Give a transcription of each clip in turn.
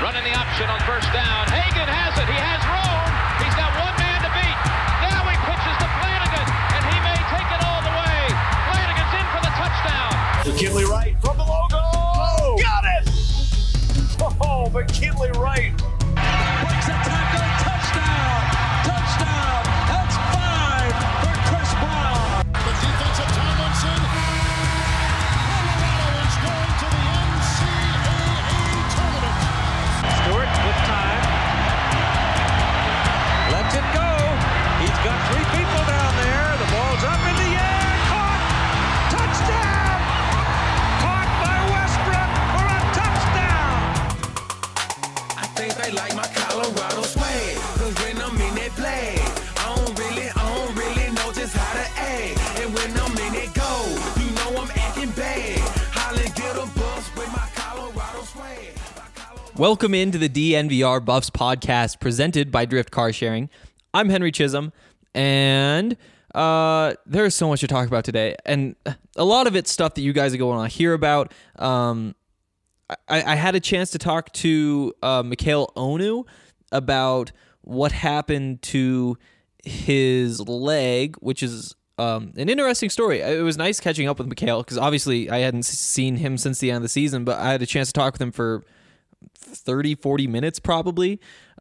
Running the option on first down. Hagan has it. He has room. He's got one man to beat. Now he pitches to Flanagan, and he may take it all the way. Flanagan's in for the touchdown. McKinley Wright from the logo. Oh, got it! Oh, McKinley Wright. Breaks a tackle. Touchdown. Touchdown. That's 5 for Chris Brown. The defensive Tomlinson. Colorado is going to the NCAA tournament. Stewart with time. Lets it go. He's got 3 people down there. The ball's up in the air. Caught. Touchdown. Caught by Westbrook for a touchdown. I think they like my Colorado swag. Cause when I'm in that play, I don't really know just how to act. And when I'm in it go, you know I'm acting bad. Holland get a bus with my Colorado swag. Welcome into the DNVR Buffs podcast presented by Drift Car Sharing. I'm Henry Chisholm, and there's so much to talk about today, and a lot of it's stuff that you guys are going to hear about. I had a chance to talk to Mikhail Onu about what happened to his leg, which is an interesting story. It was nice catching up with Mikhail because obviously I hadn't seen him since the end of the season, but I had a chance to talk with him for 30, 40 minutes probably.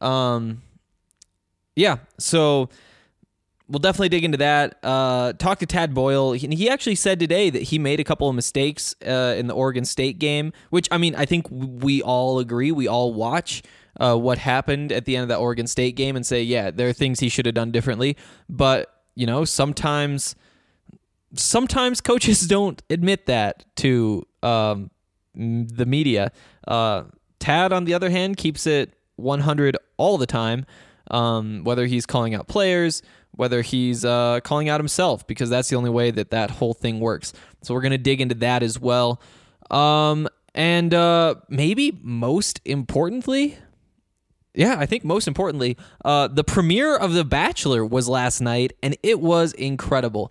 So we'll definitely dig into that. Talk to Tad Boyle. He actually said today that he made a couple of mistakes in the Oregon State game, which, I mean, I think we all agree. We all watch what happened at the end of that Oregon State game and say, yeah, there are things he should have done differently. But, you know, sometimes coaches don't admit that to the media. Tad, on the other hand, keeps it 100 all the time, whether he's calling out players, whether he's calling out himself, because that's the only way that whole thing works. So we're going to dig into that as well. And maybe most importantly, the premiere of The Bachelor was last night, and it was incredible.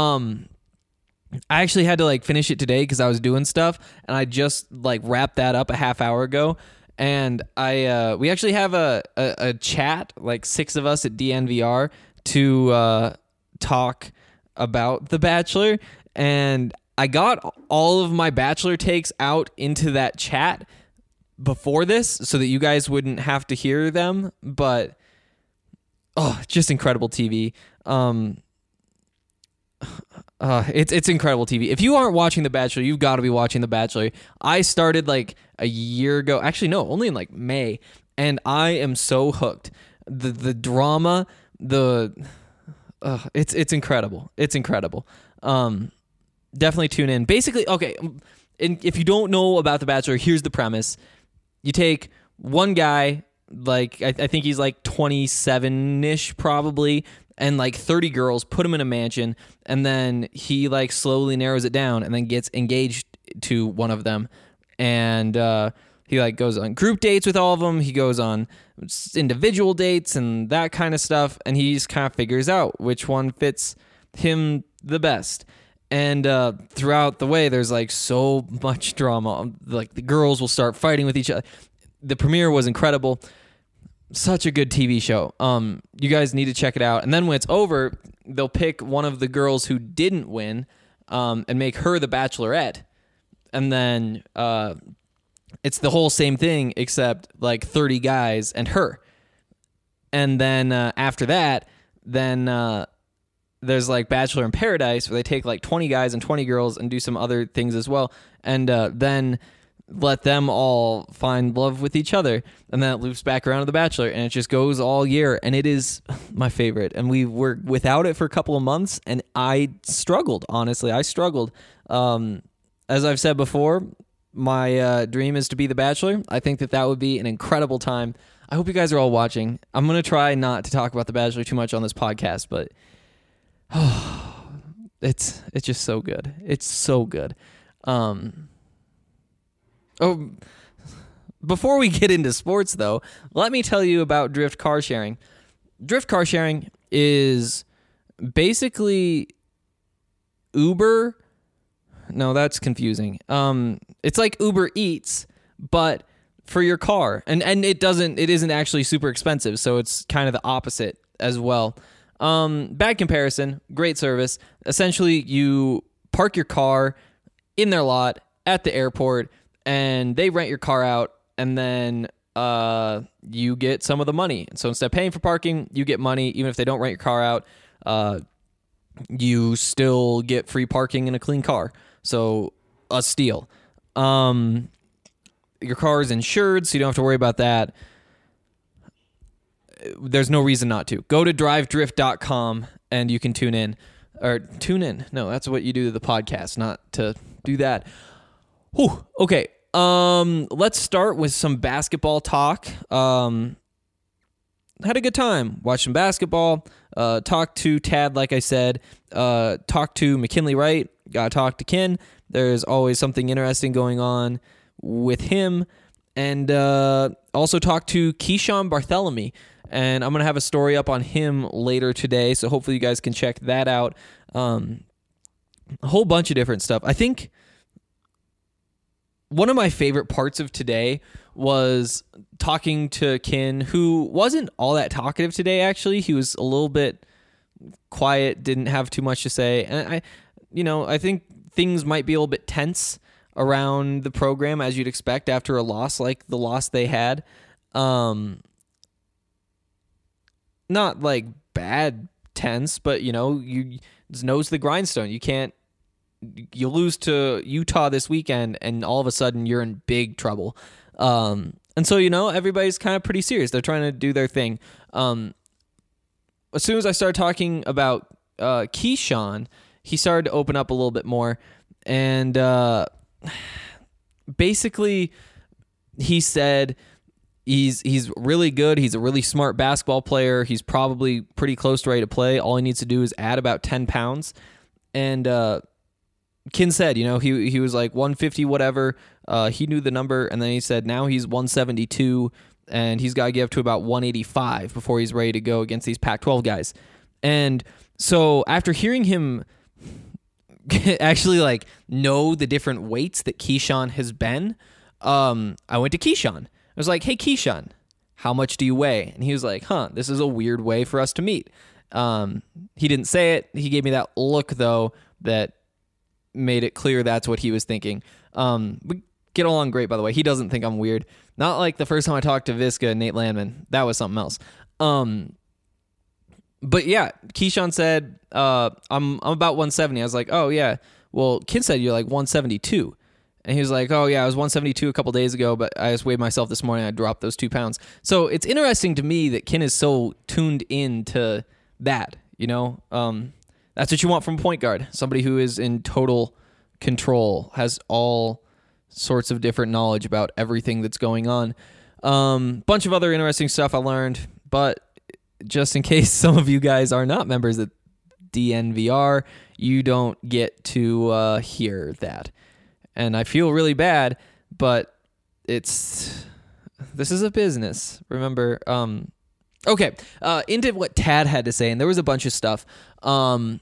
I actually had to finish it today because I was doing stuff, and I just wrapped that up a half hour ago. And we actually have a chat, 6 of us at DNVR, to talk about The Bachelor. And I got all of my Bachelor takes out into that chat before this so that you guys wouldn't have to hear them. But just incredible TV. It's incredible TV. If you aren't watching The Bachelor, you've got to be watching The Bachelor. I started a year ago. Actually, no, only in May, and I am so hooked. The drama, it's incredible. It's incredible. Definitely tune in. Basically, okay, and if you don't know about The Bachelor, here's the premise. You take one guy, I think he's 27-ish probably, and 30 girls, put him in a mansion, and then he slowly narrows it down and then gets engaged to one of them. And he goes on group dates with all of them. He goes on individual dates and that kind of stuff. And he just kind of figures out which one fits him the best. And throughout the way, there's so much drama. The girls will start fighting with each other. The premiere was incredible. Such a good TV show. You guys need to check it out. And then when it's over, they'll pick one of the girls who didn't win and make her the Bachelorette. And then it's the whole same thing except 30 guys and her. And then after that, there's Bachelor in Paradise where they take 20 guys and 20 girls and do some other things as well. And then let them all find love with each other, and then it loops back around to The Bachelor, and it just goes all year, and it is my favorite. And we were without it for a couple of months, and I struggled, honestly. I struggled. As I've said before, my dream is to be The Bachelor. I think that would be an incredible time. I hope you guys are all watching. I'm going to try not to talk about The Bachelor too much on this podcast, but it's just so good. It's so good. Before we get into sports, though, let me tell you about Drift Car Sharing. Drift Car Sharing is basically Uber. No, that's confusing. It's like Uber Eats, but for your car. And it isn't actually super expensive, so it's kind of the opposite as well. Bad comparison, great service. Essentially, you park your car in their lot at the airport, and they rent your car out, and then you get some of the money. So instead of paying for parking, you get money. Even if they don't rent your car out, you still get free parking in a clean car. So a steal. Your car is insured, so you don't have to worry about that. There's no reason not to. Go to drivedrift.com and you can tune in. Or tune in. No, that's what you do to the podcast, not to do that. Whew. Okay. Let's start with some basketball talk. Had a good time. Watched some basketball. Talked to Tad, like I said. Talked to McKinley Wright. Got to talk to Ken. There's always something interesting going on with him. And also talked to Keyshawn Bartholomew. And I'm going to have a story up on him later today, so hopefully you guys can check that out. A whole bunch of different stuff. I think one of my favorite parts of today was talking to Ken, who wasn't all that talkative today, actually. He was a little bit quiet, didn't have too much to say. And I think things might be a little bit tense around the program, as you'd expect after a loss like the loss they had. Not like bad tense, but it's nose to the grindstone. You lose to Utah this weekend, and all of a sudden you're in big trouble. And so everybody's kind of pretty serious. They're trying to do their thing. As soon as I started talking about Keyshawn, he started to open up a little bit more, and basically he said he's really good. He's a really smart basketball player. He's probably pretty close to ready to play. All he needs to do is add about 10 pounds. And Ken said, he was like 150 whatever. He knew the number, and then he said now he's 172, and he's got to get up to about 185 before he's ready to go against these Pac-12 guys. And so after hearing him actually know the different weights that Keyshawn has been, I went to Keyshawn. I was like, hey, Keyshawn, how much do you weigh? And he was like, this is a weird way for us to meet. He didn't say it. He gave me that look, though, that made it clear that's what he was thinking. We get along great, by the way. He doesn't think I'm weird. Not like the first time I talked to Visca and Nate Landman. That was something else. But yeah, Keyshawn said, I'm about 170. I was like, oh, yeah. Well, Ken said you're like 172. And he was like, oh, yeah, I was 172 a couple days ago, but I just weighed myself this morning. I dropped those 2 pounds. So it's interesting to me that Ken is so tuned into that, That's what you want from a point guard, somebody who is in total control, has all sorts of different knowledge about everything that's going on. Bunch of other interesting stuff I learned, but just in case some of you guys are not members of DNVR, you don't get to hear that. And I feel really bad, but this is a business, remember? Okay, into what Tad had to say, and there was a bunch of stuff. I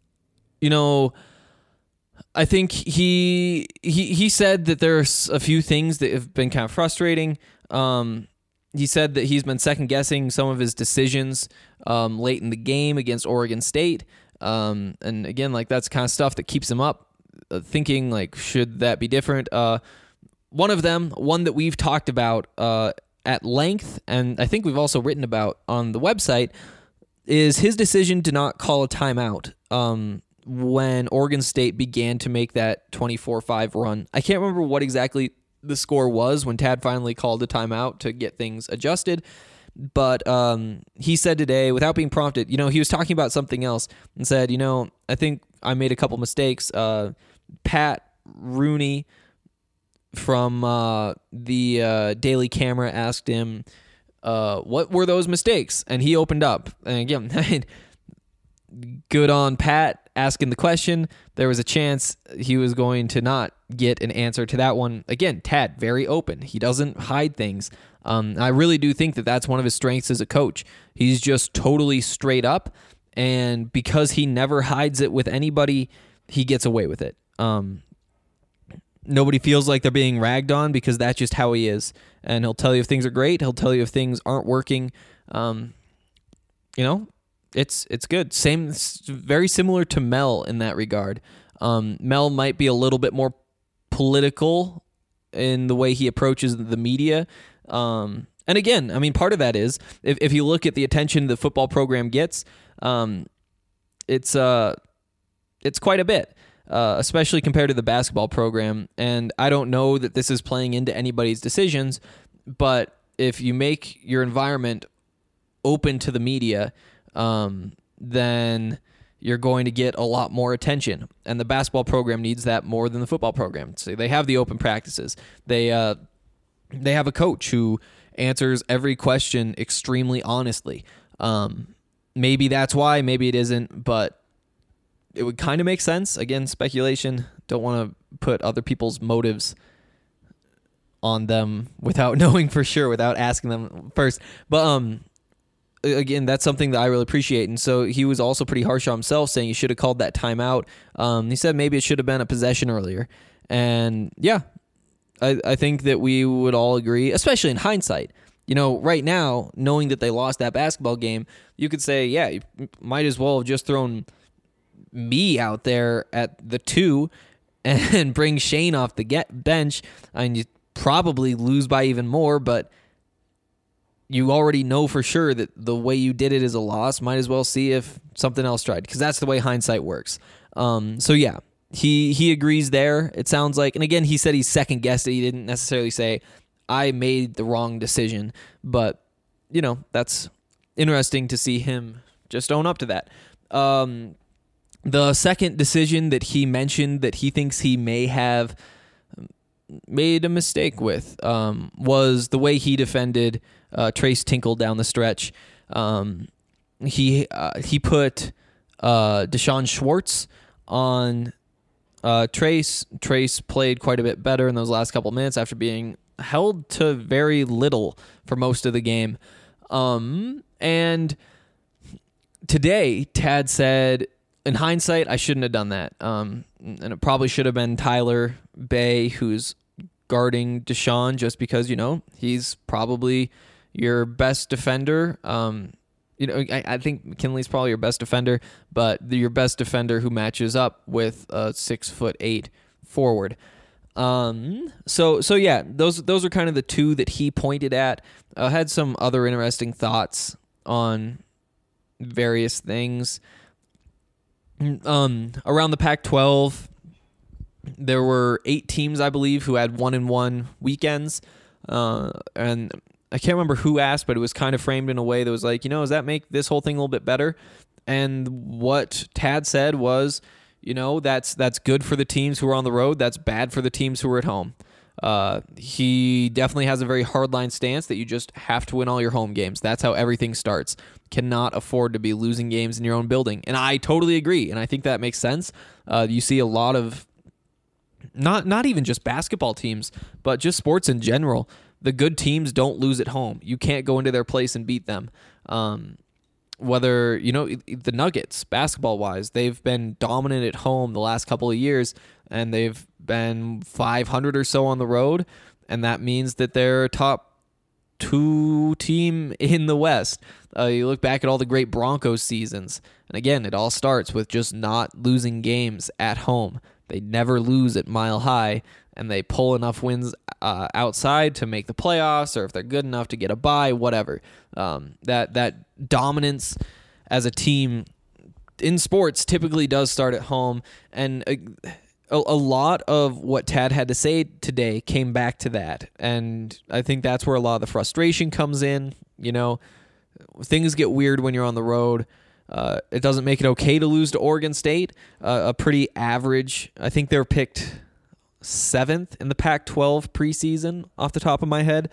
think he said that there's a few things that have been kind of frustrating. He said that he's been second-guessing some of his decisions late in the game against Oregon State. And again, that's the kind of stuff that keeps him up, thinking, should that be different? One that we've talked about at length, and I think we've also written about on the website, is his decision to not call a timeout when Oregon State began to make that 24-5 run. I can't remember what exactly the score was when Tad finally called a timeout to get things adjusted, but he said today, without being prompted, he was talking about something else and said, I think I made a couple mistakes. Pat Rooney from the Daily Camera asked him, what were those mistakes? And he opened up. And again, good on Pat asking the question. There was a chance he was going to not get an answer to that one. Again, Tad, very open. He doesn't hide things. I really do think that that's one of his strengths as a coach. He's just totally straight up. And because he never hides it with anybody, he gets away with it. nobody feels like they're being ragged on because that's just how he is. And he'll tell you if things are great. He'll tell you if things aren't working. It's good. Very similar to Mel in that regard. Mel might be a little bit more political in the way he approaches the media. And again, I mean, part of that is if you look at the attention the football program gets, it's quite a bit. Especially compared to the basketball program. And I don't know that this is playing into anybody's decisions, but if you make your environment open to the media, then you're going to get a lot more attention. And the basketball program needs that more than the football program. So they have the open practices. They have a coach who answers every question extremely honestly. Maybe that's why, maybe it isn't, but it would kind of make sense. Again, speculation. Don't want to put other people's motives on them without knowing for sure, without asking them first. But again, that's something that I really appreciate. And so he was also pretty harsh on himself, saying he should have called that timeout. He said maybe it should have been a possession earlier. And yeah, I think that we would all agree, especially in hindsight. Right now, knowing that they lost that basketball game, you could say, yeah, you might as well have just thrown me out there at the 2 and bring Shane off the bench. I mean, you probably lose by even more, but you already know for sure that the way you did it is a loss. Might as well see if something else tried, because that's the way hindsight works. So yeah, he agrees there, it sounds like. And again, he said he second guessed it. He didn't necessarily say I made the wrong decision, but that's interesting to see him just own up to that. The second decision that he mentioned that he thinks he may have made a mistake with was the way he defended Trace Tinkle down the stretch. He put Deshaun Schwartz on Trace. Trace played quite a bit better in those last couple minutes after being held to very little for most of the game. And today, Tad said, in hindsight, I shouldn't have done that. And it probably should have been Tyler Bay who's guarding Deshaun, just because, he's probably your best defender. I think McKinley's probably your best defender, but your best defender who matches up with a 6'8" forward. So yeah, those are kind of the two that he pointed at. Had some other interesting thoughts on various things. Around the Pac-12, there were 8 teams, I believe, who had 1-1 weekends. And I can't remember who asked, but it was kind of framed in a way that was like, does that make this whole thing a little bit better? And what Tad said was, that's good for the teams who are on the road. That's bad for the teams who are at home. He definitely has a very hardline stance that you just have to win all your home games. That's how everything starts. Cannot afford to be losing games in your own building. And I totally agree. And I think that makes sense. You see a lot of, not even just basketball teams, but just sports in general. The good teams don't lose at home. You can't go into their place and beat them. Whether, the Nuggets, basketball-wise, they've been dominant at home the last couple of years, and they've been 500 or so on the road, and that means that they're a top 2 team in the West. You look back at all the great Broncos seasons, and again, it all starts with just not losing games at home. They never lose at Mile High, and they pull enough wins outside to make the playoffs, or if they're good enough to get a bye, whatever. That dominance as a team in sports typically does start at home, and a lot of what Tad had to say today came back to that, and I think that's where a lot of the frustration comes in. Things get weird when you're on the road. It doesn't make it okay to lose to Oregon State, a pretty average. I think they were picked 7th in the Pac-12 preseason off the top of my head.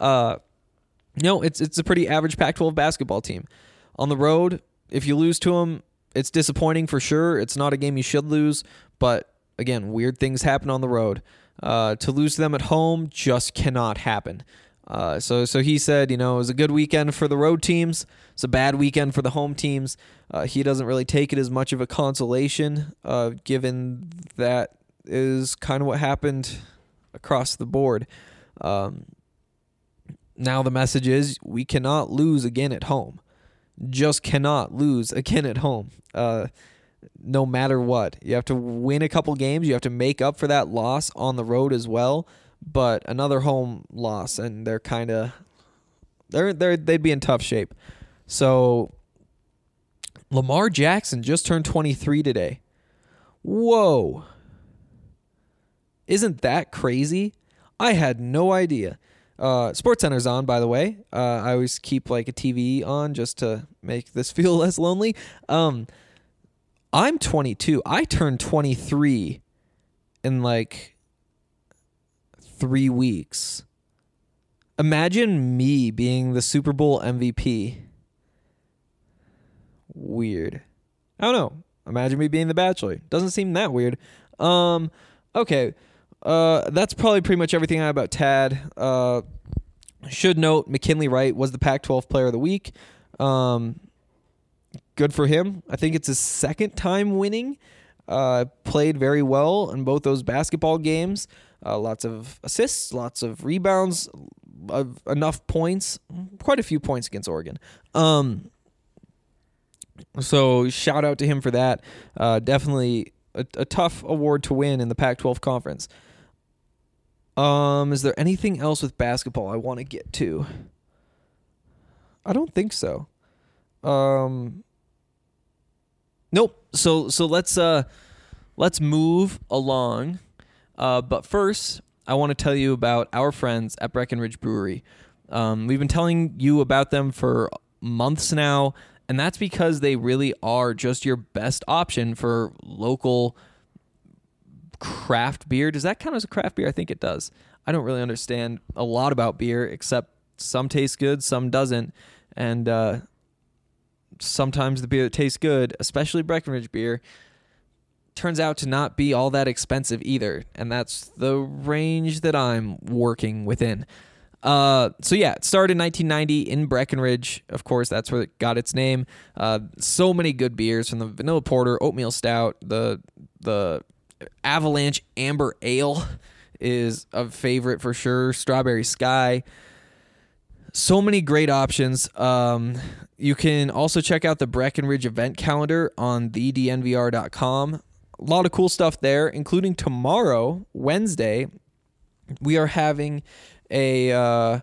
It's a pretty average Pac-12 basketball team. On the road, if you lose to them, it's disappointing for sure. It's not a game you should lose, but again, weird things happen on the road. To lose to them at home just cannot happen. So he said, it was a good weekend for the road teams. It's a bad weekend for the home teams. He doesn't really take it as much of a consolation, given that is kind of what happened across the board. Now the message is we cannot lose again at home. Just cannot lose again at home. No matter what. You have to win a couple games. You have to make up for that loss on the road as well. But another home loss, and they're kind of they'd be in tough shape. So Lamar Jackson just turned 23 today. Whoa. Isn't that crazy? I had no idea. SportsCenter's on, by the way. I always keep like a TV on just to make this feel less lonely. I'm 22. I turned 23 in like 3 weeks. Imagine me being the Super Bowl MVP. Weird. I don't know. Imagine me being the Bachelor. Doesn't seem that weird. Okay. That's probably pretty much everything I have about Tad. Should note, McKinley Wright was the Pac-12 Player of the Week. Good for him. I think it's his second time winning. Played very well in both those basketball games. Lots of assists, lots of rebounds, enough points, quite a few points against Oregon. So shout out to him for that. Definitely a tough award to win in the Pac-12 conference. Is there anything else with basketball I want to get to? I don't think so. Nope. So let's move along. But first, I want to tell you about our friends at Breckenridge Brewery. We've been telling you about them for months now, and that's because they really are just your best option for local craft beer. Does that count as a craft beer? I think it does. I don't really understand a lot about beer, except some taste good, some doesn't. And sometimes the beer that tastes good, especially Breckenridge beer, turns out to not be all that expensive either. And that's the range that I'm working within. So yeah, it started in 1990 in Breckenridge. Of course, that's where it got its name. So many good beers, from the Vanilla Porter, Oatmeal Stout, the Avalanche Amber Ale is a favorite for sure. Strawberry Sky. So many great options. You can also check out the Breckenridge event calendar on thednvr.com. A lot of cool stuff there, including tomorrow, Wednesday, we are having a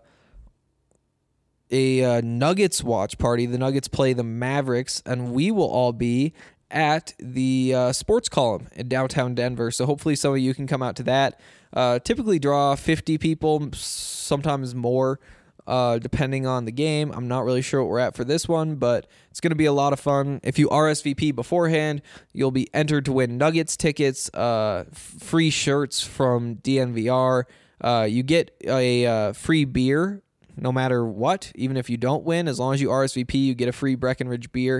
Nuggets watch party. The Nuggets play the Mavericks, and we will all be at the sports column in downtown Denver. So hopefully some of you can come out to that. Typically draw 50 people, sometimes more, depending on the game. I'm not really sure what we're at for this one, but it's going to be a lot of fun. If you RSVP beforehand, you'll be entered to win Nuggets tickets, free shirts from DNVR. You get a free beer no matter what, even if you don't win. As long as you RSVP, you get a free Breckenridge beer.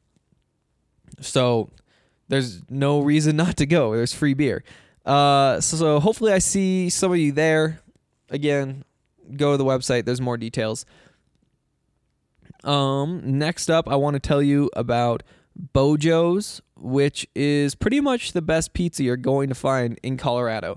So there's no reason not to go. There's free beer. So hopefully I see some of you there. Again, go to the website. There's more details. Next up, I want to tell you about Bojo's, which is pretty much the best pizza you're going to find in Colorado.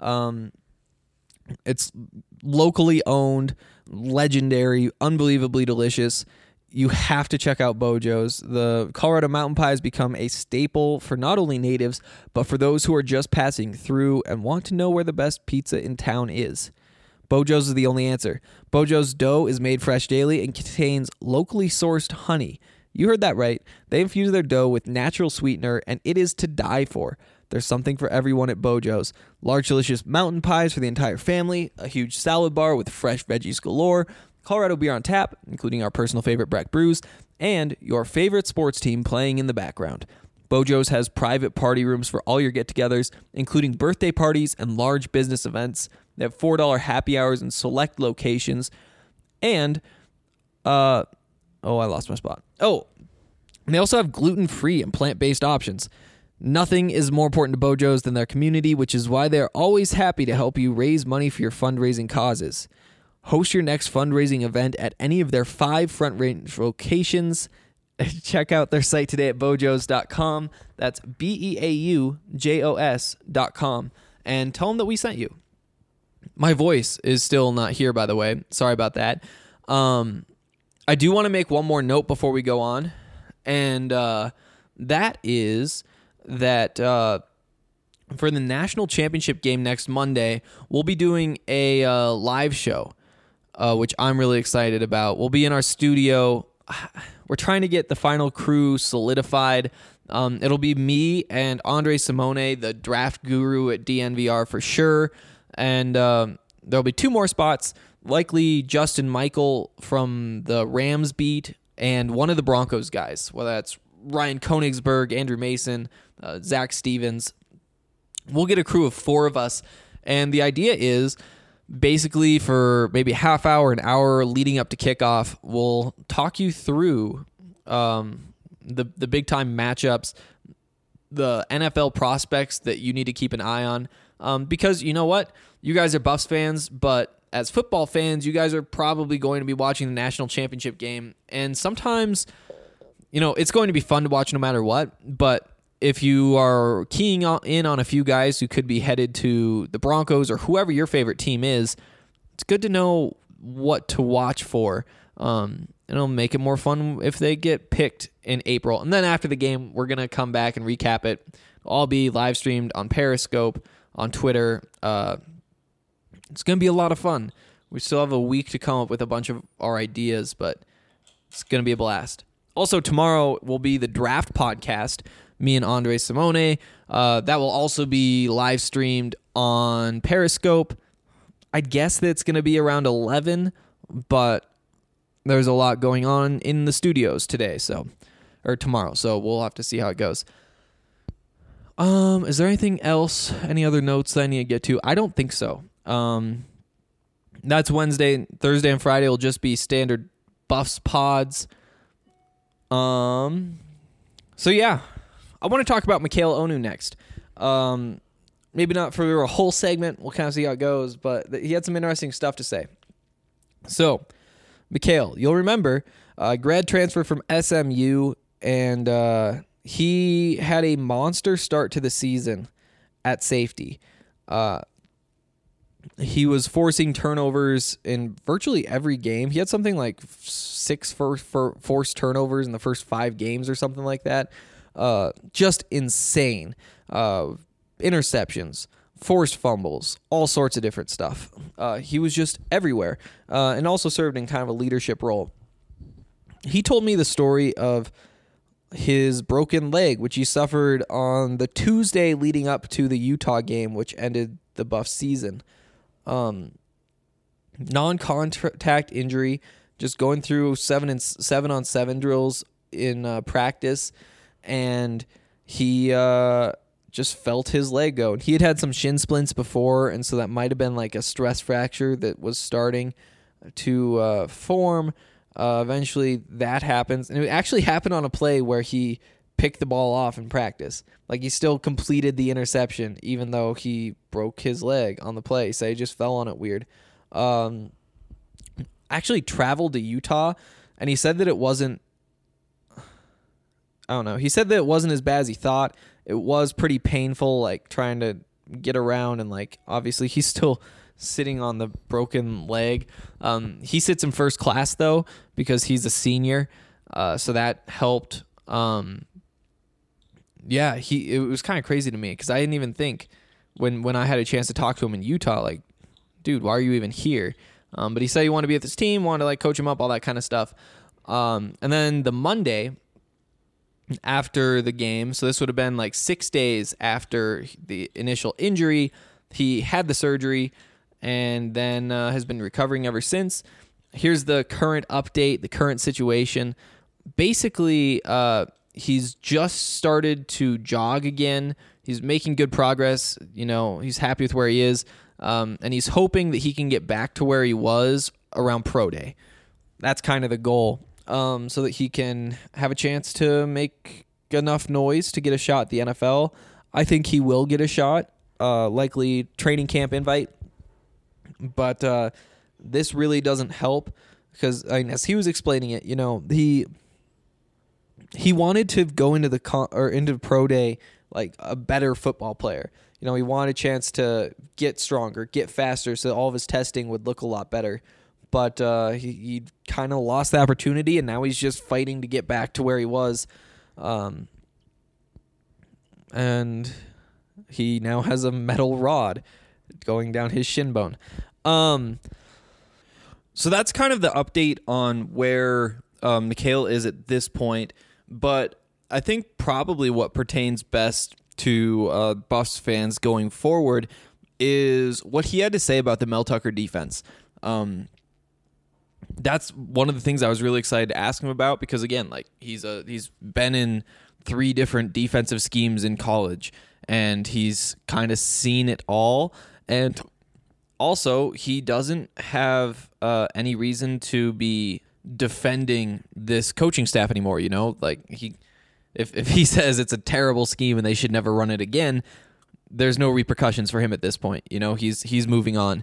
It's locally owned, legendary, unbelievably delicious. You have to check out Bojo's. The Colorado Mountain Pie has become a staple for not only natives, but for those who are just passing through and want to know where the best pizza in town is. Bojo's is the only answer. Bojo's dough is made fresh daily and contains locally sourced honey. You heard that right. They infuse their dough with natural sweetener, and it is to die for. There's something for everyone at Bojo's. Large, delicious mountain pies for the entire family, a huge salad bar with fresh veggies galore, Colorado beer on tap, including our personal favorite Breck Brews, and your favorite sports team playing in the background. Bojo's has private party rooms for all your get-togethers, including birthday parties and large business events. They have $4 happy hours in select locations. And, I lost my spot. Oh, and they also have gluten-free and plant-based options. Nothing is more important to Bojo's than their community, which is why they're always happy to help you raise money for your fundraising causes. Host your next fundraising event at any of their 5 Front Range locations check out their site today at bojos.com. That's BEAUJOS.com. And tell them that we sent you. My voice is still not here, by the way. Sorry about that. I do want to make one more note before we go on. And that is that for the national championship game next Monday, we'll be doing a live show, which I'm really excited about. We'll be in our studio. We're trying to get the final crew solidified. It'll be me and Andre Simone, the draft guru at DNVR for sure. And there'll be 2 more spots, likely Justin Michael from the Rams beat and one of the Broncos guys, whether that's Ryan Konigsberg, Andrew Mason, Zach Stevens. We'll get a crew of 4 of us. And the idea is basically for maybe a half hour, an hour leading up to kickoff, we'll talk you through the big time matchups, the NFL prospects that you need to keep an eye on. Because you know what? You guys are Buffs fans, but as football fans, you guys are probably going to be watching the national championship game. And sometimes, it's going to be fun to watch no matter what. But if you are keying in on a few guys who could be headed to the Broncos or whoever your favorite team is, it's good to know what to watch for. And it'll make it more fun if they get picked in April. And then after the game, we're going to come back and recap it. It'll all be live streamed on Periscope, on Twitter. It's going to be a lot of fun. We still have a week to come up with a bunch of our ideas, but it's going to be a blast. Also, tomorrow will be the draft podcast, me and Andre Simone. That will also be live streamed on Periscope. I guess that it's going to be around 11, but there's a lot going on in the studios today, or tomorrow, so we'll have to see how it goes. Is there anything else? Any other notes that I need to get to? I don't think so. That's Wednesday. Thursday and Friday will just be standard Buffs pods. So yeah, I want to talk about Mikel Onu next. Maybe not for a whole segment. We'll kind of see how it goes, but he had some interesting stuff to say. So, Mikel, you'll remember, grad transfer from SMU, and he had a monster start to the season at safety. He was forcing turnovers in virtually every game. He had something like 6 forced turnovers in the first 5 games or something like that. Just insane. Interceptions, forced fumbles, all sorts of different stuff. He was just everywhere, and also served in kind of a leadership role. He told me the story of his broken leg, which he suffered on the Tuesday leading up to the Utah game, which ended the Buffs season. Non-contact injury, just going through 7-on-7 drills in practice, and he just felt his leg go. And he had some shin splints before, and so that might have been like a stress fracture that was starting to form. Eventually, that happens, and it actually happened on a play where he picked the ball off in practice. Like, he still completed the interception, even though he broke his leg on the play. So he just fell on it weird. Actually traveled to Utah, and he said that it wasn't, I don't know. He said that it wasn't as bad as he thought. It was pretty painful, like, trying to get around, and, like, obviously he's still sitting on the broken leg. He sits in first class, though, because he's a senior, so that helped. Yeah, it was kind of crazy to me because I didn't even think when I had a chance to talk to him in Utah, like, dude, why are you even here? But he said he wanted to be with his team, wanted to like coach him up, all that kind of stuff. And then the Monday after the game, so this would have been like 6 days after the initial injury, he had the surgery and then has been recovering ever since. Here's the current update, the current situation. Basically, he's just started to jog again. He's making good progress. He's happy with where he is. And he's hoping that he can get back to where he was around Pro Day. That's kind of the goal. So that he can have a chance to make enough noise to get a shot at the NFL. I think he will get a shot, likely training camp invite. But this really doesn't help because, as he was explaining it, he wanted to go into into pro day like a better football player. He wanted a chance to get stronger, get faster, so all of his testing would look a lot better. But he kind of lost the opportunity, and now he's just fighting to get back to where he was. And he now has a metal rod going down his shin bone. So that's kind of the update on where Mikhail is at this point. But I think probably what pertains best to Buffs fans going forward is what he had to say about the Mel Tucker defense. That's one of the things I was really excited to ask him about because, again, like he's been in 3 different defensive schemes in college, and he's kind of seen it all. And also, he doesn't have any reason to be defending this coaching staff anymore. Like if he says it's a terrible scheme and they should never run it again, there's no repercussions for him at this point. He's moving on.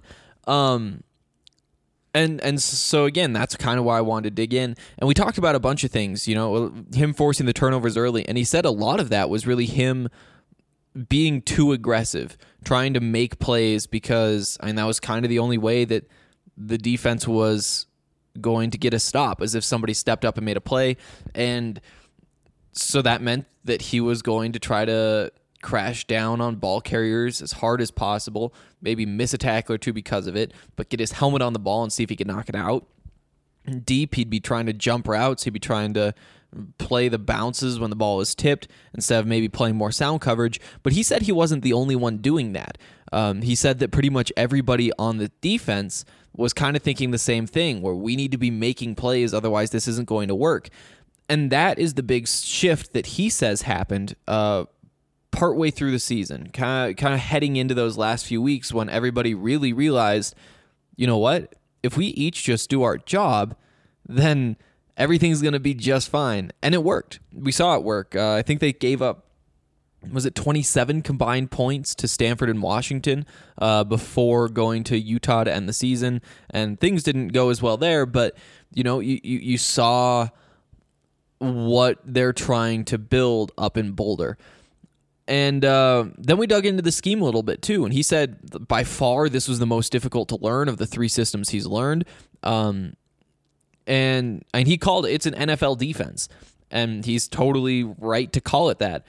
And so again, that's kind of why I wanted to dig in. And we talked about a bunch of things, him forcing the turnovers early, and he said a lot of that was really him being too aggressive, trying to make plays because that was kind of the only way that the defense was going to get a stop, as if somebody stepped up and made a play. And so that meant that he was going to try to crash down on ball carriers as hard as possible, maybe miss a tackle or two because of it, but get his helmet on the ball and see if he could knock it out. Deep, he'd be trying to jump routes. He'd be trying to play the bounces when the ball was tipped instead of maybe playing more sound coverage. But he said he wasn't the only one doing that. He said that pretty much everybody on the defense was kind of thinking the same thing, where we need to be making plays, otherwise this isn't going to work. And that is the big shift that he says happened partway through the season, kind of heading into those last few weeks when everybody really realized, you know what? If we each just do our job, then everything's going to be just fine. And it worked. We saw it work. I think they gave up, was it 27 combined points to Stanford and Washington before going to Utah to end the season. And things didn't go as well there, but you saw what they're trying to build up in Boulder. And then we dug into the scheme a little bit too, and he said by far this was the most difficult to learn of the 3 systems he's learned. And he called it's an NFL defense, and he's totally right to call it that.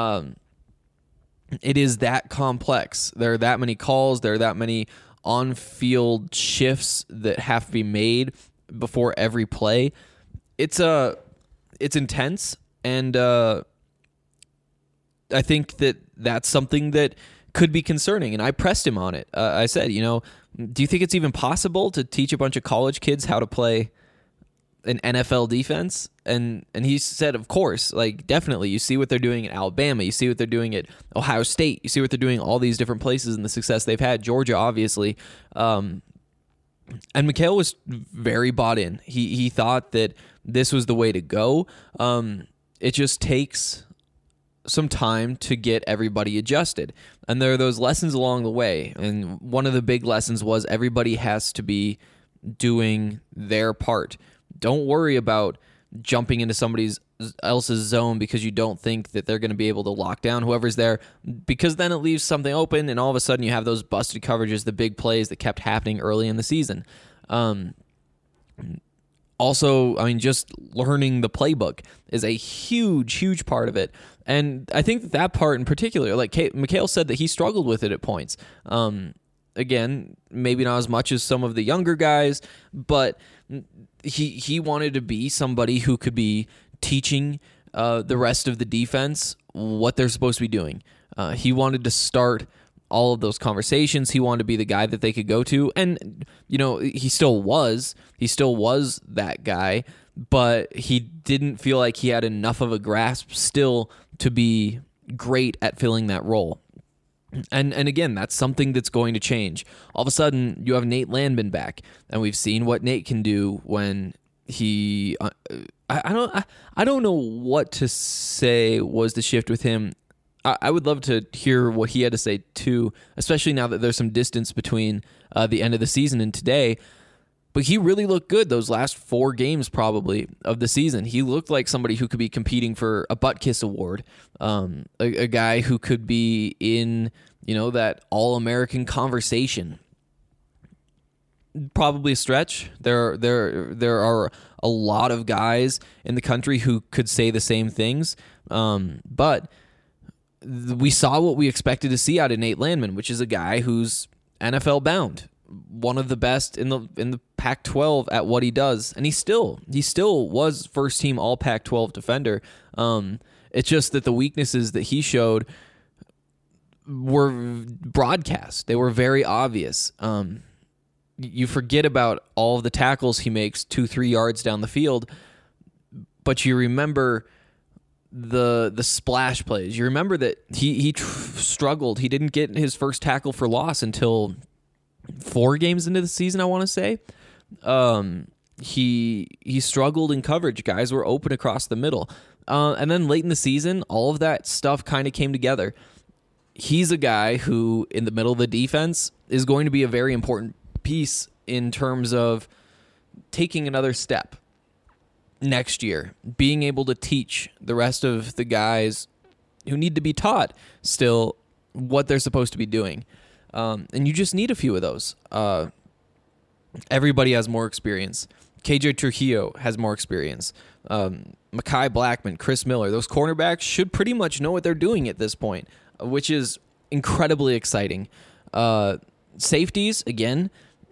It is that complex. There are that many calls. There are that many on-field shifts that have to be made before every play. It's intense, and I think that that's something that could be concerning. And I pressed him on it. I said, do you think it's even possible to teach a bunch of college kids how to play an NFL defense? And he said, of course, like definitely. You see what they're doing at Alabama. You see what they're doing at Ohio State. You see what they're doing all these different places and the success they've had. Georgia, obviously. And Mikhail was very bought in. He thought that this was the way to go. It just takes some time to get everybody adjusted. And there are those lessons along the way. And one of the big lessons was everybody has to be doing their part. Don't worry about jumping into somebody else's zone because you don't think that they're going to be able to lock down whoever's there, because then it leaves something open, and all of a sudden you have those busted coverages, the big plays that kept happening early in the season. Also, just learning the playbook is a huge, huge part of it. And I think that part in particular, like Mikhail said that he struggled with it at points. Again, maybe not as much as some of the younger guys, but he wanted to be somebody who could be teaching the rest of the defense what they're supposed to be doing. He wanted to start all of those conversations. He wanted to be the guy that they could go to. And, he still was that guy, but he didn't feel like he had enough of a grasp still to be great at filling that role. And again, that's something that's going to change. All of a sudden, you have Nate Landman back, and we've seen what Nate can do when he. I don't know what to say was the shift with him. I would love to hear what he had to say too, especially now that there's some distance between the end of the season and today. But he really looked good those last 4 games probably of the season. He looked like somebody who could be competing for a butt kiss award, a guy who could be in, that All-American conversation. Probably a stretch. There are a lot of guys in the country who could say the same things, but we saw what we expected to see out of Nate Landman, which is a guy who's NFL bound, one of the best in the Pac-12 at what he does, and he still was first team All Pac-12 defender. It's just that the weaknesses that he showed were broadcast; they were very obvious. You forget about all of the tackles he makes 2-3 yards down the field, but you remember the splash plays. You remember that he struggled. He didn't get his first tackle for loss until 4 games into the season, I want to say. He struggled in coverage. Guys were open across the middle. And then late in the season, all of that stuff kind of came together. He's a guy who, in the middle of the defense, is going to be a very important piece in terms of taking another step next year, being able to teach the rest of the guys who need to be taught still what they're supposed to be doing. And you just need a few of those. Everybody has more experience. KJ Trujillo has more experience. Mekhi Blackman, Chris Miller, those cornerbacks should pretty much know what they're doing at this point, which is incredibly exciting. Safeties, again,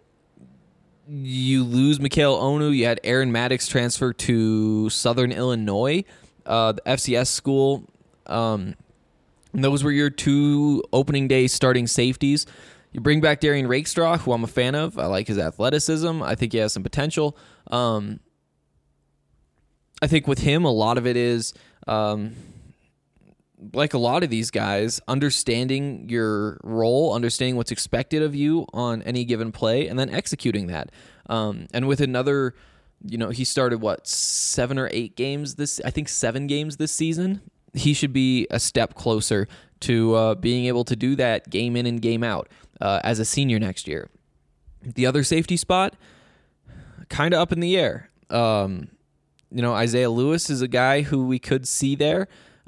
you lose Mikhail Onu. You had Aaron Maddox transfer to Southern Illinois, the FCS school. And those were your 2 opening day starting safeties. You bring back Darian Rakestraw, who I'm a fan of. I like his athleticism. I think he has some potential. I think with him, a lot of it is, like a lot of these guys, understanding your role, understanding what's expected of you on any given play, and then executing that. And with another, he started, 7 or 8 games I think 7 games this season. He should be a step closer to being able to do that game in and game out as a senior next year. The other safety spot, kind of up in the air. Isaiah Lewis is a guy who we could see there.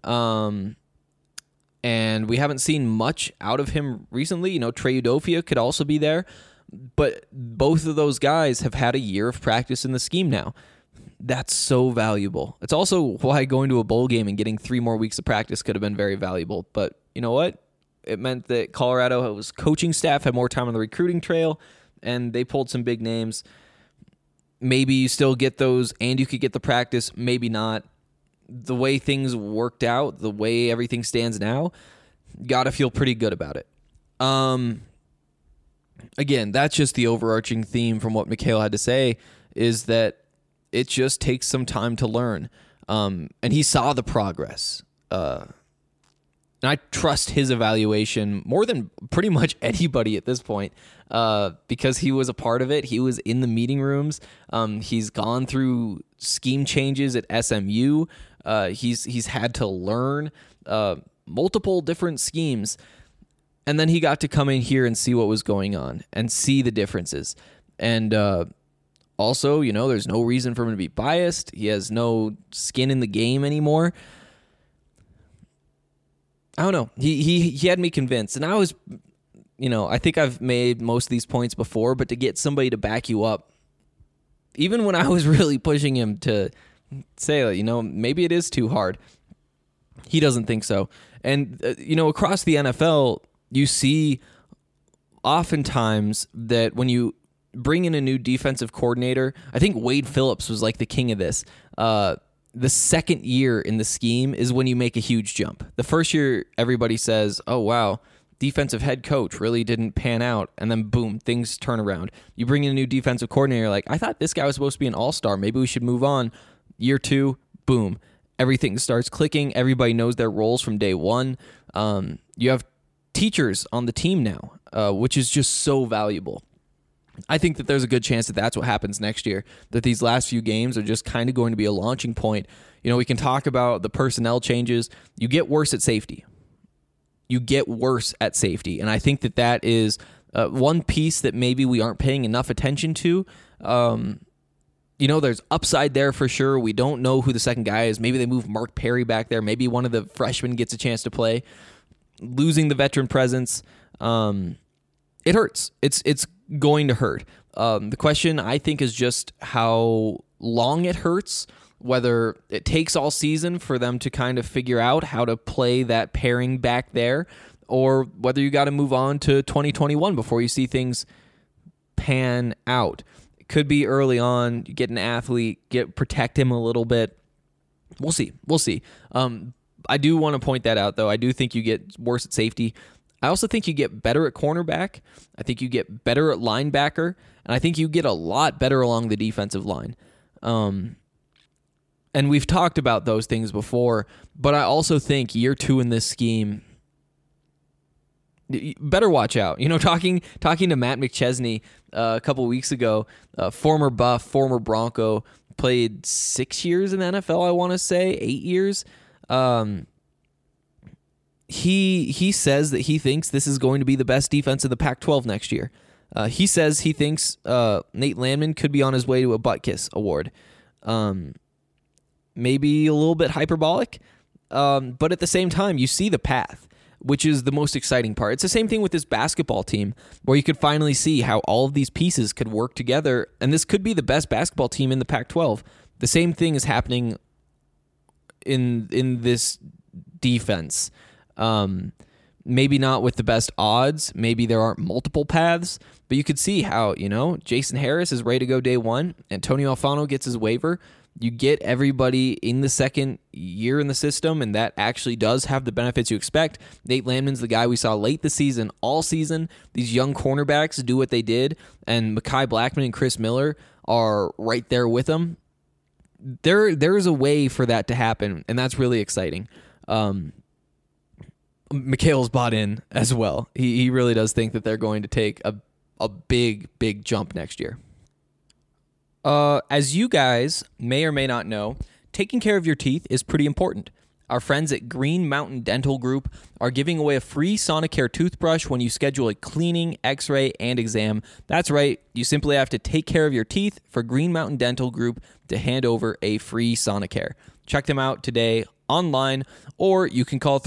And we haven't seen much out of him recently. Trey Udofia could also be there. But both of those guys have had a year of practice in the scheme now. That's so valuable. It's also why going to a bowl game and getting 3 more weeks of practice could have been very valuable. But you know what? It meant that Colorado's coaching staff had more time on the recruiting trail, and they pulled some big names. Maybe you still get those, and you could get the practice. Maybe not. The way things worked out, the way everything stands now, got to feel pretty good about it. Again, that's just the overarching theme from what Mikhail had to say, is that it just takes some time to learn. And he saw the progress. And I trust his evaluation more than pretty much anybody at this point, because he was a part of it. He was in the meeting rooms. He's gone through scheme changes at SMU. He's had to learn multiple different schemes. And then he got to come in here and see what was going on and see the differences. And also, there's no reason for him to be biased. He has no skin in the game anymore. I don't know. He had me convinced. And I was, I think I've made most of these points before, but to get somebody to back you up, even when I was really pushing him to say, maybe it is too hard, he doesn't think so. And, across the NFL, you see oftentimes that when you bring in a new defensive coordinator, I think Wade Phillips was like the king of this. The second year in the scheme is when you make a huge jump. The first year, everybody says, oh, wow, defensive head coach really didn't pan out. And then, boom, things turn around. You bring in a new defensive coordinator, like, I thought this guy was supposed to be an all-star. Maybe we should move on. Year 2, boom, everything starts clicking. Everybody knows their roles from day one. You have teachers on the team now, which is just so valuable. I think that there's a good chance that that's what happens next year, that these last few games are just kind of going to be a launching point. We can talk about the personnel changes. You get worse at safety. And I think that is one piece that maybe we aren't paying enough attention to There's upside there for sure. We don't know who the second guy is. Maybe they move Mark Perry back there. Maybe one of the freshmen gets a chance to play. Losing the veteran presence, it hurts. It's going to hurt. The question, I think, is just how long it hurts, whether it takes all season for them to kind of figure out how to play that pairing back there, or whether you got to move on to 2021 before you see things pan out. It could be early on. You get an athlete, protect him a little bit. We'll see. I do want to point that out, though. I do think you get worse at safety. I also think you get better at cornerback. I think you get better at linebacker. And I think you get a lot better along the defensive line. And we've talked about those things before, but I also think year 2 in this scheme, better watch out. Talking to Matt McChesney a couple weeks ago, former Buff, former Bronco, played 6 years in the NFL, I want to say, 8 years. He says that he thinks this is going to be the best defense in the Pac-12 next year. He says he thinks Nate Landman could be on his way to a butt kiss award. Maybe a little bit hyperbolic, but at the same time, you see the path, which is the most exciting part. It's the same thing with this basketball team, where you could finally see how all of these pieces could work together, and this could be the best basketball team in the Pac-12. The same thing is happening in this defense. Maybe not with the best odds. Maybe there aren't multiple paths, but you could see how, Jason Harris is ready to go day one. Antonio Alfano gets his waiver. You get everybody in the second year in the system, and that actually does have the benefits you expect. Nate Landman's the guy we saw late the season, all season. These young cornerbacks do what they did, and Mekhi Blackman and Chris Miller are right there with them. There's a way for that to happen, and that's really exciting. Mikhail's bought in as well. He really does think that they're going to take a big, big jump next year. As you guys may or may not know, taking care of your teeth is pretty important. Our friends at Green Mountain Dental Group are giving away a free Sonicare toothbrush when you schedule a cleaning, x-ray, and exam. That's right, you simply have to take care of your teeth for Green Mountain Dental Group to hand over a free Sonicare. Check them out today online, or you can call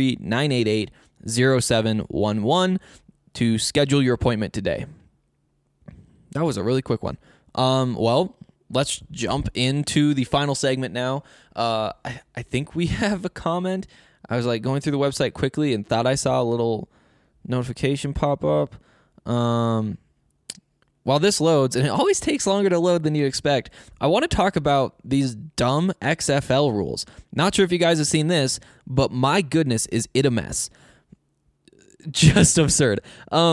303-988-0711 to schedule your appointment today. That was a really quick one. Well, let's jump into the final segment now. I think we have a comment. I was going through the website quickly and thought I saw a little notification pop up. While this loads, and it always takes longer to load than you expect, I want to talk about these dumb XFL rules. Not sure if you guys have seen this, but my goodness, is it a mess. Just absurd.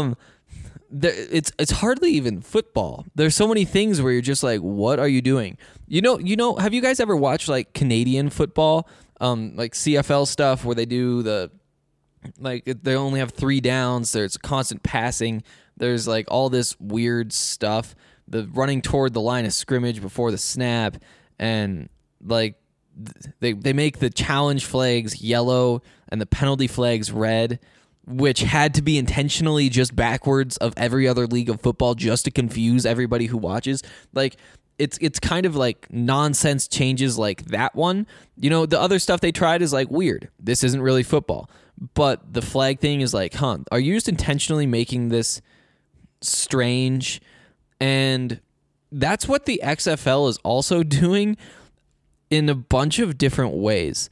It's hardly even football. There's so many things where you're just like, what are you doing? Have you guys ever watched Canadian football, CFL stuff where they do they only have 3 downs. There's constant passing. There's all this weird stuff. The running toward the line of scrimmage before the snap, and they make the challenge flags yellow and the penalty flags red, which had to be intentionally just backwards of every other league of football just to confuse everybody who watches. It's kind of nonsense changes like that one. The other stuff they tried is weird. This isn't really football. But the flag thing is are you just intentionally making this strange? And that's what the XFL is also doing in a bunch of different ways.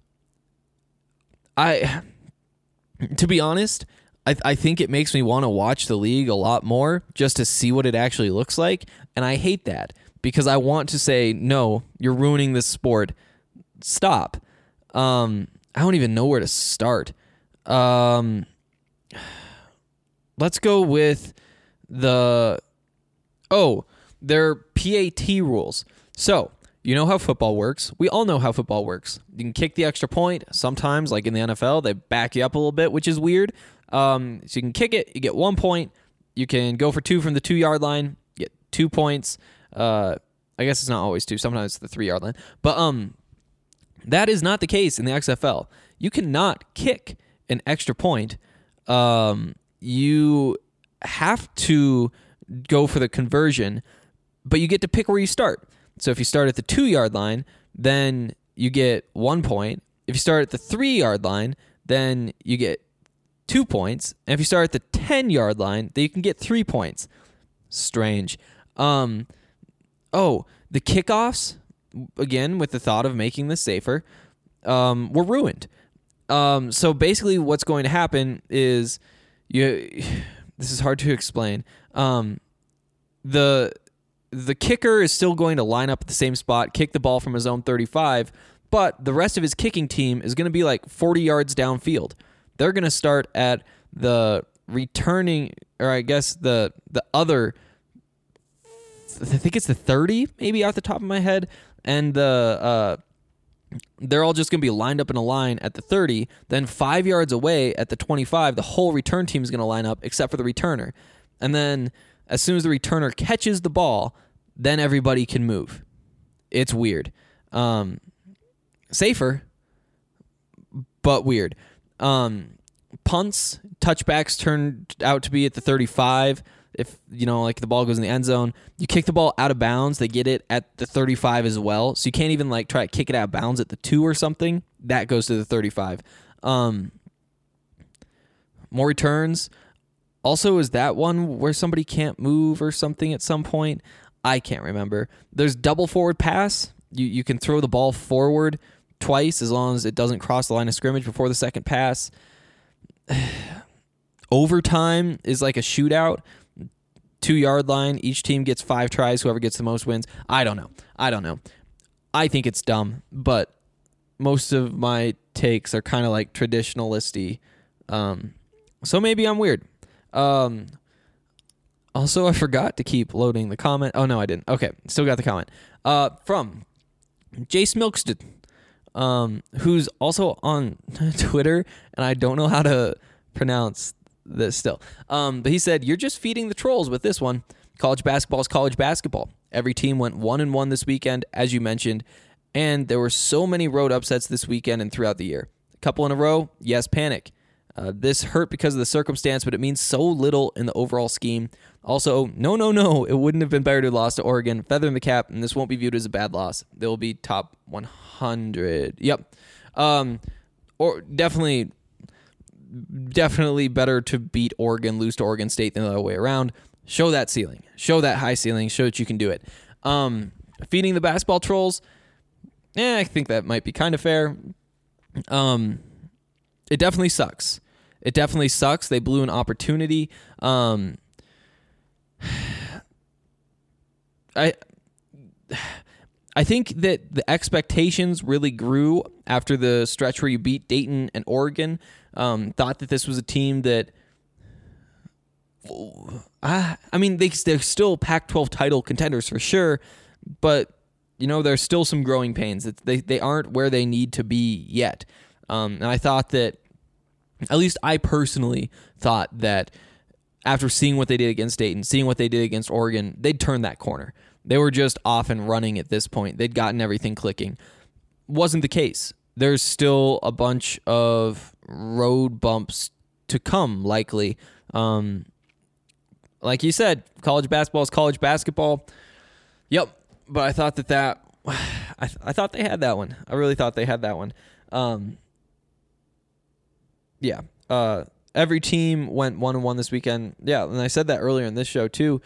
To be honest, I think it makes me want to watch the league a lot more just to see what it actually looks like. And I hate that because I want to say, no, you're ruining this sport. Stop. I don't even know where to start. Let's go with their PAT rules. So, you know how football works. We all know how football works. You can kick the extra point. Sometimes, in the NFL, they back you up a little bit, which is weird. So you can kick it, you get 1 point. You can go for 2 from the 2-yard line, get 2 points. I guess it's not always 2. Sometimes it's the 3-yard line. But that is not the case in the XFL. You cannot kick an extra point. You have to go for the conversion. but you get to pick where you start. So if you start at the 2-yard line, then you get 1 point. If you start at the 3-yard line, then you get 2 points. And if you start at the 10-yard line, then you can get 3 points. Strange. The kickoffs, again, with the thought of making this safer, were ruined. So basically what's going to happen is this is hard to explain. The kicker is still going to line up at the same spot, kick the ball from his own 35, but the rest of his kicking team is going to be like 40 yards downfield. They're going to start at the returning, or I guess the other, I think it's the 30, maybe off the top of my head, and they're all just going to be lined up in a line at the 30. Then 5 yards away at the 25, the whole return team is going to line up except for the returner. And then as soon as the returner catches the ball, then everybody can move. It's weird. Safer, but weird. Punts, touchbacks turned out to be at the 35. If, like the ball goes in the end zone, you kick the ball out of bounds, they get it at the 35 as well. So you can't even try to kick it out of bounds at the 2 or something. That goes to the 35. More returns. Also, is that one where somebody can't move or something at some point? I can't remember. There's double forward pass. You can throw the ball forward twice as long as it doesn't cross the line of scrimmage before the second pass. Overtime is like a shootout. 2-yard line. Each team gets 5 tries. Whoever gets the most wins. I don't know. I think it's dumb, but most of my takes are kind of like traditionalisty. So maybe I'm weird. Also, I forgot to keep loading the comment. Oh, no, I didn't. Okay, still got the comment. From Jace Milkston, who's also on Twitter, and I don't know how to pronounce this still. But he said, "You're just feeding the trolls with this one. College basketball is college basketball. Every team went 1-1 this weekend, as you mentioned, and there were so many road upsets this weekend and throughout the year. A couple in a row, yes, panic. This hurt because of the circumstance, but it means so little in the overall scheme. Also, no, it wouldn't have been better to have lost to Oregon. Feather in the cap, and this won't be viewed as a bad loss. They will be top 100. Yep. Or definitely better to beat Oregon, lose to Oregon State than the other way around. Show that ceiling. Show that high ceiling. Show that you can do it. Feeding the basketball trolls, I think that might be kind of fair. It definitely sucks. They blew an opportunity. I think that the expectations really grew after the stretch where you beat Dayton and Oregon. Thought that this was a team that, they're still Pac-12 title contenders for sure, but there's still some growing pains. They aren't where they need to be yet. And I thought that, at least I personally thought that after seeing what they did against Dayton, seeing what they did against Oregon, they'd turn that corner. They were just off and running at this point. They'd gotten everything clicking. Wasn't the case. There's still a bunch of road bumps to come, likely. Like you said, college basketball is college basketball. Yep, but I thought I thought they had that one. I really thought they had that one. Every team went 1-1 this weekend. Yeah, and I said that earlier in this show too.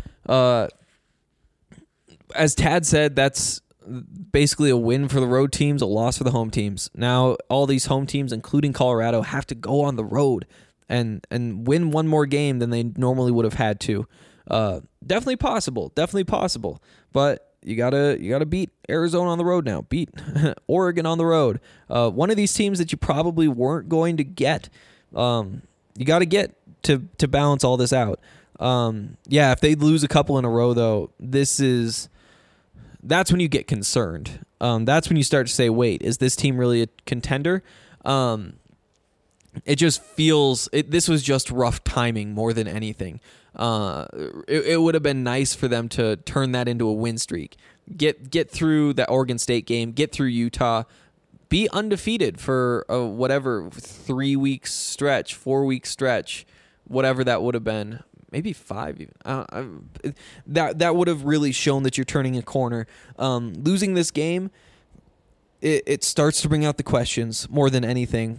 As Tad said, that's basically a win for the road teams, a loss for the home teams. Now, all these home teams, including Colorado, have to go on the road and win one more game than they normally would have had to. Definitely possible. But you gotta beat Arizona on the road now. Beat Oregon on the road. One of these teams that you probably weren't going to get. You got to get to balance all this out. If they lose a couple in a row, though, that's when you get concerned. That's when you start to say, wait, is this team really a contender? It just feels this was just rough timing more than anything. It would have been nice for them to turn that into a win streak. Get through the Oregon State game, get through Utah, be undefeated for whatever 3 week stretch, 4 week stretch, whatever that would have been. maybe 5 even. That would have really shown that you're turning a corner. Losing this game, it starts to bring out the questions more than anything.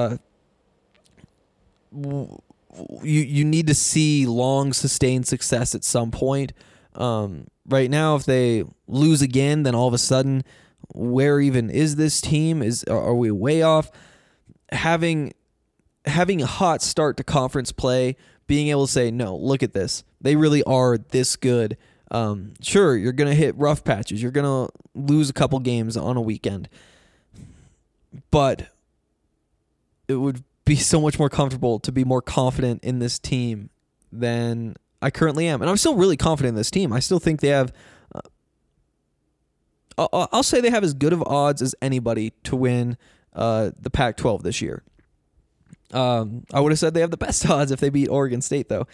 You need to see long sustained success at some point. Right now, if they lose again, then all of a sudden, where even is this team? Are we way off? Having a hot start to conference play, being able to say, no, look at this. They really are this good. Sure, you're going to hit rough patches. You're going to lose a couple games on a weekend. But it would be so much more comfortable to be more confident in this team than I currently am. And I'm still really confident in this team. I still think they have... I'll say they have as good of odds as anybody to win the Pac-12 this year. I would have said they have the best odds if they beat Oregon State, though.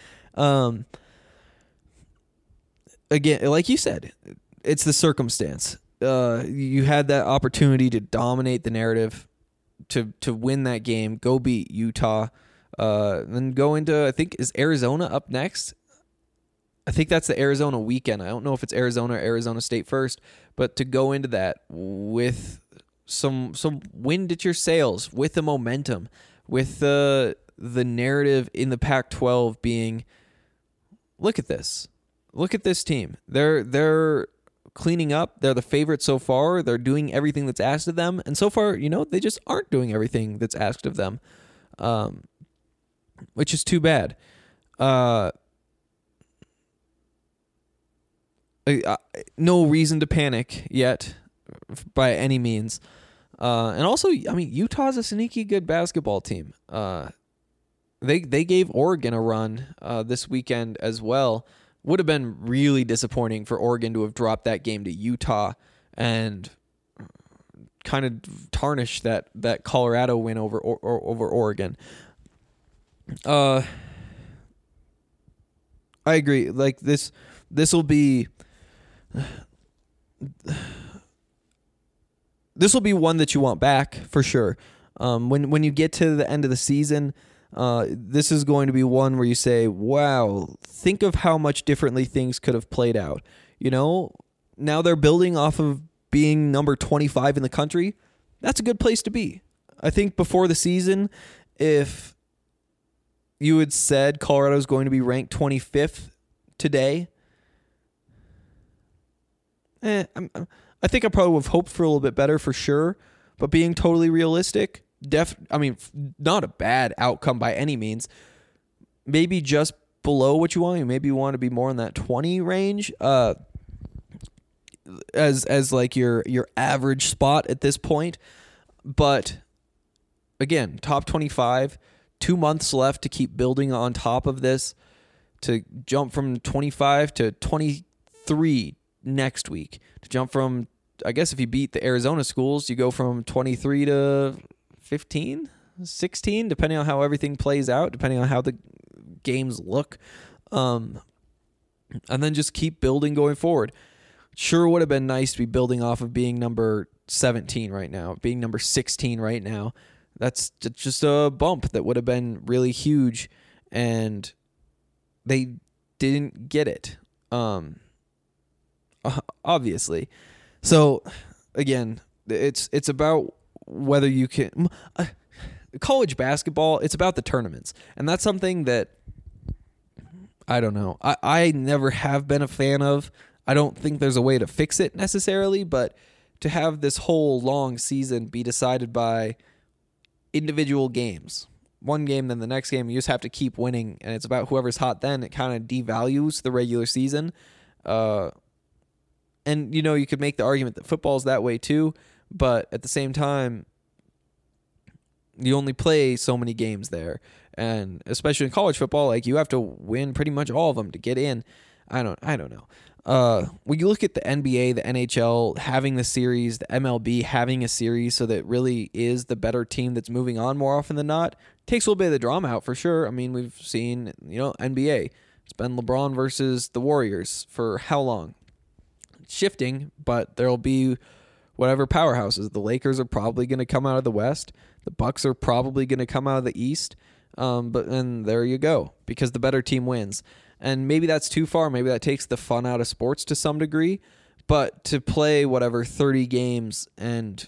Again, like you said, it's the circumstance. You had that opportunity to dominate the narrative, to win that game, go beat Utah, then go into, I think, is Arizona up next? I think that's the Arizona weekend. I don't know if it's Arizona or Arizona State first, but to go into that with some wind at your sails, with the momentum, with the narrative in the Pac-12 being, look at this team. They're cleaning up. They're the favorite so far. They're doing everything that's asked of them, and so far, they just aren't doing everything that's asked of them, which is too bad. No reason to panic yet, by any means. And also, Utah's a sneaky good basketball team. They gave Oregon a run this weekend as well. Would have been really disappointing for Oregon to have dropped that game to Utah and kind of tarnish that Colorado win over Oregon. I agree. Like this will be. This will be one that you want back for sure. When you get to the end of the season, this is going to be one where you say, wow, think of how much differently things could have played out. Now they're building off of being number 25 in the country. That's a good place to be. I think before the season, if you had said Colorado's going to be ranked 25th today, I think I probably would have hoped for a little bit better for sure, but being totally realistic, not a bad outcome by any means. Maybe just below what you want. Maybe you want to be more in that 20 range, as like your average spot at this point. But again, top 25, 2 months left to keep building on top of this, to jump from 25 to 23 next week, to jump from, I guess if you beat the Arizona schools, you go from 23 to 15, 16, depending on how everything plays out, depending on how the games look. And then just keep building going forward. Sure would have been nice to be building off of being number 17 right now, being number 16 right now. That's just a bump that would have been really huge, and they didn't get it. Obviously. So again, it's about whether you can college basketball, it's about the tournaments. And that's something that I don't know. I never have been a fan of. I don't think there's a way to fix it necessarily, but to have this whole long season be decided by individual games, one game, then the next game, you just have to keep winning, and it's about whoever's hot then, it kind of devalues the regular season. And, you could make the argument that football's that way too, but at the same time, you only play so many games there. And especially in college football, like, you have to win pretty much all of them to get in. I don't know. When you look at the NBA, the NHL having the series, the MLB having a series so that it really is the better team that's moving on more often than not, takes a little bit of the drama out for sure. I mean, we've seen, NBA. It's been LeBron versus the Warriors for how long? Shifting, but there'll be whatever powerhouses. The Lakers are probably going to come out of the West. The Bucks are probably going to come out of the East. And there you go, because the better team wins. And maybe that's too far. Maybe that takes the fun out of sports to some degree. But to play 30 games and,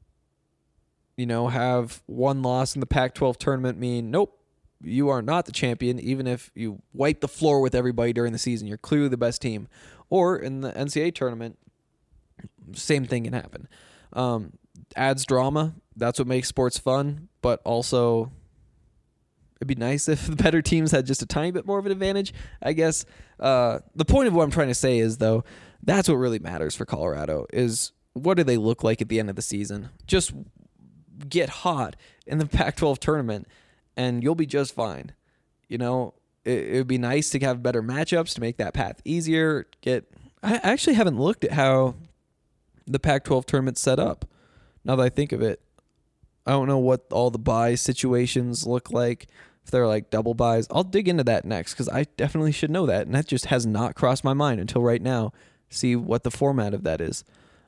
have one loss in the Pac-12 tournament mean, nope, you are not the champion, even if you wipe the floor with everybody during the season. You're clearly the best team. Or in the NCAA tournament, same thing can happen. Adds drama. That's what makes sports fun. But also, it'd be nice if the better teams had just a tiny bit more of an advantage, I guess. The point of what I'm trying to say is, though, that's what really matters for Colorado is what do they look like at the end of the season? Just get hot in the Pac-12 tournament, and you'll be just fine. It would be nice to have better matchups to make that path easier. I actually haven't looked at how the Pac-12 tournament's set up. Now that I think of it, I don't know what all the bye situations look like. If they're like double buys, I'll dig into that next because I definitely should know that, and that just has not crossed my mind until right now. See what the format of that is.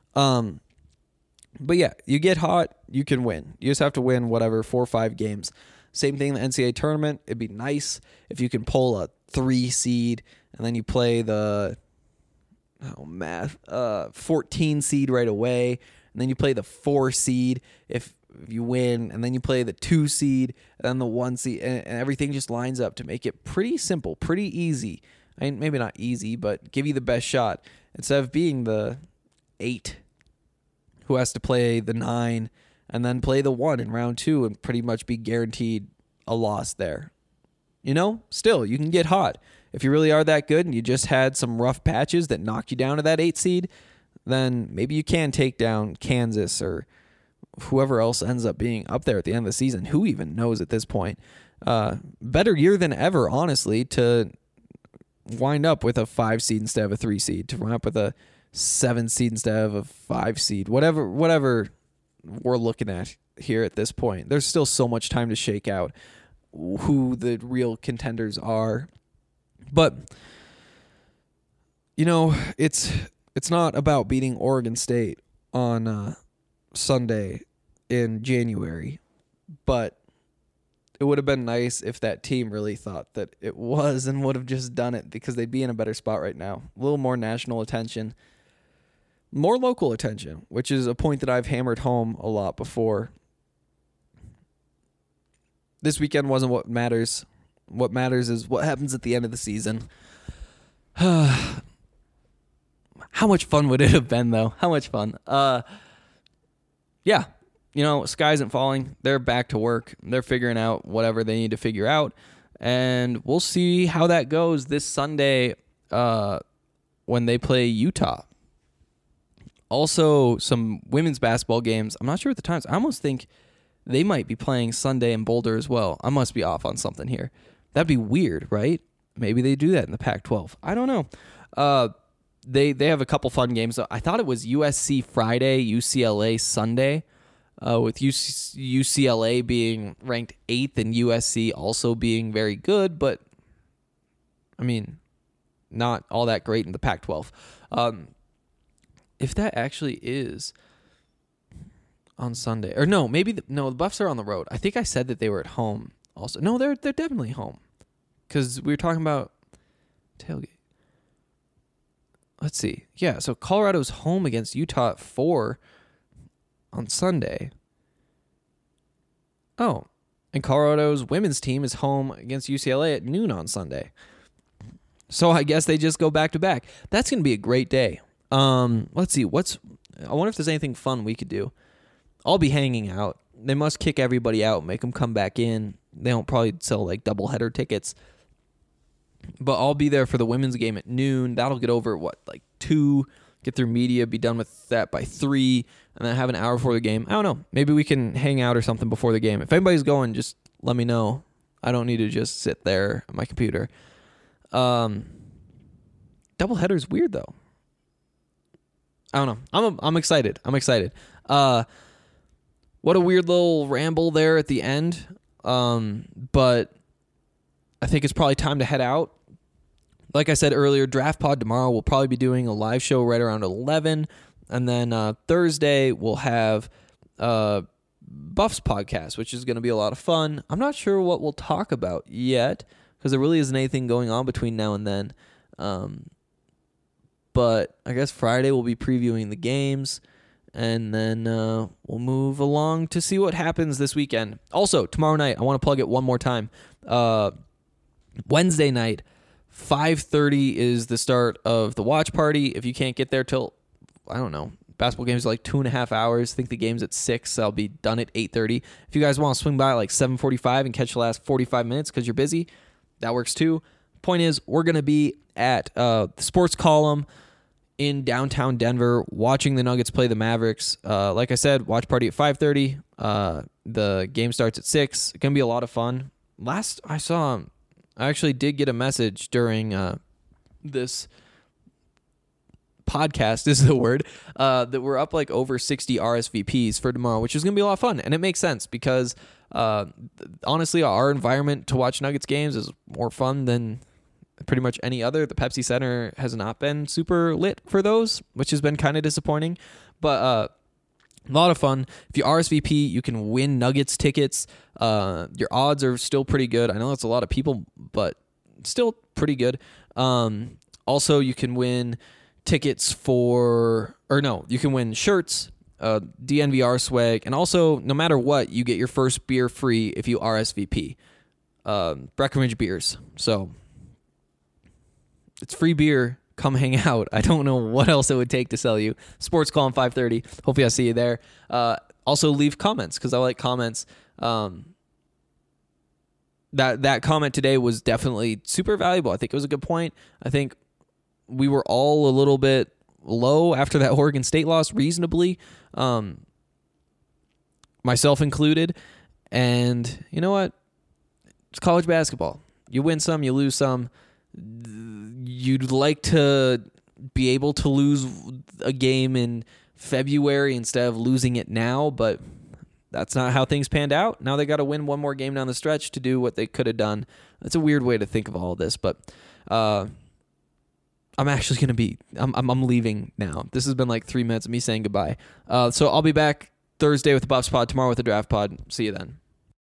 But yeah, you get hot, you can win. You just have to win 4 or 5 games. Same thing in the NCAA tournament. It'd be nice if you can pull a 3 seed and then you play the 14 seed right away, and then you play the 4 seed if you win, and then you play the 2 seed and then the 1 seed, and everything just lines up to make it pretty simple, pretty easy. I mean, maybe not easy, but give you the best shot instead of being the 8 who has to play the 9 and then play the 1 in round 2 and pretty much be guaranteed a loss there. Still, you can get hot. If you really are that good and you just had some rough patches that knocked you down to that 8 seed, then maybe you can take down Kansas or whoever else ends up being up there at the end of the season. Who even knows at this point? Better year than ever, honestly, to wind up with a 5 seed instead of a 3 seed, to wind up with a 7 seed instead of a 5 seed, whatever we're looking at here at this point. There's still so much time to shake out who the real contenders are. But, it's not about beating Oregon State on Sunday in January, but it would have been nice if that team really thought that it was and would have just done it, because they'd be in a better spot right now. A little more national attention, more local attention, which is a point that I've hammered home a lot before. This weekend wasn't what matters. What matters is what happens at the end of the season. How much fun would it have been, though? How much fun. Yeah. Sky isn't falling. They're back to work. They're figuring out whatever they need to figure out. And we'll see how that goes this Sunday when they play Utah. Also, some women's basketball games. I'm not sure at the times. I almost think they might be playing Sunday in Boulder as well. I must be off on something here. That'd be weird, right? Maybe they do that in the Pac-12. I don't know. They have a couple fun games. I thought it was USC Friday, UCLA Sunday, with UCLA being ranked 8th and USC also being very good, but, I mean, not all that great in the Pac-12. If that actually is on Sunday, or no, maybe the Buffs are on the road. I think I said that they were at home also. No, they're definitely home, because we were talking about tailgate. Let's see. Yeah, so Colorado's home against Utah at 4 on Sunday. Oh, and Colorado's women's team is home against UCLA at noon on Sunday. So I guess they just go back to back. That's going to be a great day. Let's see. I wonder if there's anything fun we could do. I'll be hanging out. They must kick everybody out, make them come back in. They don't probably sell like doubleheader tickets. But I'll be there for the women's game at noon. That'll get over at 2, get through media, be done with that by 3, and then have an hour before the game. I don't know. Maybe we can hang out or something before the game. If anybody's going, just let me know. I don't need to just sit there on my computer. Doubleheader's weird, though. I don't know. I'm excited. What a weird little ramble there at the end. But I think it's probably time to head out. Like I said earlier, Draft Pod tomorrow, we'll probably be doing a live show right around 11. And then Thursday, we'll have Buffs podcast, which is going to be a lot of fun. I'm not sure what we'll talk about yet because there really isn't anything going on between now and then. But I guess Friday we'll be previewing the games, and then we'll move along to see what happens this weekend. Also, tomorrow night, I want to plug it one more time. Wednesday night, 5:30 is the start of the watch party. If you can't get there till, I don't know, basketball games are like 2.5 hours. I think the game's at 6. I'll be done at 8:30. If you guys want to swing by at like 7:45 and catch the last 45 minutes because you're busy, that works too. Point is, we're going to be at the Sports Column in downtown Denver watching the Nuggets play the Mavericks. Like I said, watch party at 5:30. The game starts at 6. It's going to be a lot of fun. Last I saw, I actually did get a message during this podcast, is the word, that we're up like over 60 RSVPs for tomorrow, which is going to be a lot of fun. And it makes sense because honestly, our environment to watch Nuggets games is more fun than pretty much any other. The Pepsi Center has not been super lit for those, which has been kind of disappointing. But a lot of fun. If you RSVP, you can win Nuggets tickets. Your odds are still pretty good. I know that's a lot of people, but still pretty good. Also, you can win tickets you can win shirts, DNVR swag, and also, no matter what, you get your first beer free if you RSVP. Breckenridge beers. So it's free beer. Come hang out. I don't know what else it would take to sell you. Sports Call on 5:30. Hopefully I'll see you there. Also leave comments because I like comments. That comment today was definitely super valuable. I think it was a good point. I think we were all a little bit low after that Oregon State loss, reasonably, myself included. And you know what? It's college basketball. You win some, you lose some. You'd like to be able to lose a game in February instead of losing it now, but that's not how things panned out. Now they got to win one more game down the stretch to do what they could have done. That's a weird way to think of all of this, but I'm actually going to be, I'm leaving now. This has been like 3 minutes of me saying goodbye. So I'll be back Thursday with the Buffs pod, tomorrow with the Draft pod. See you then.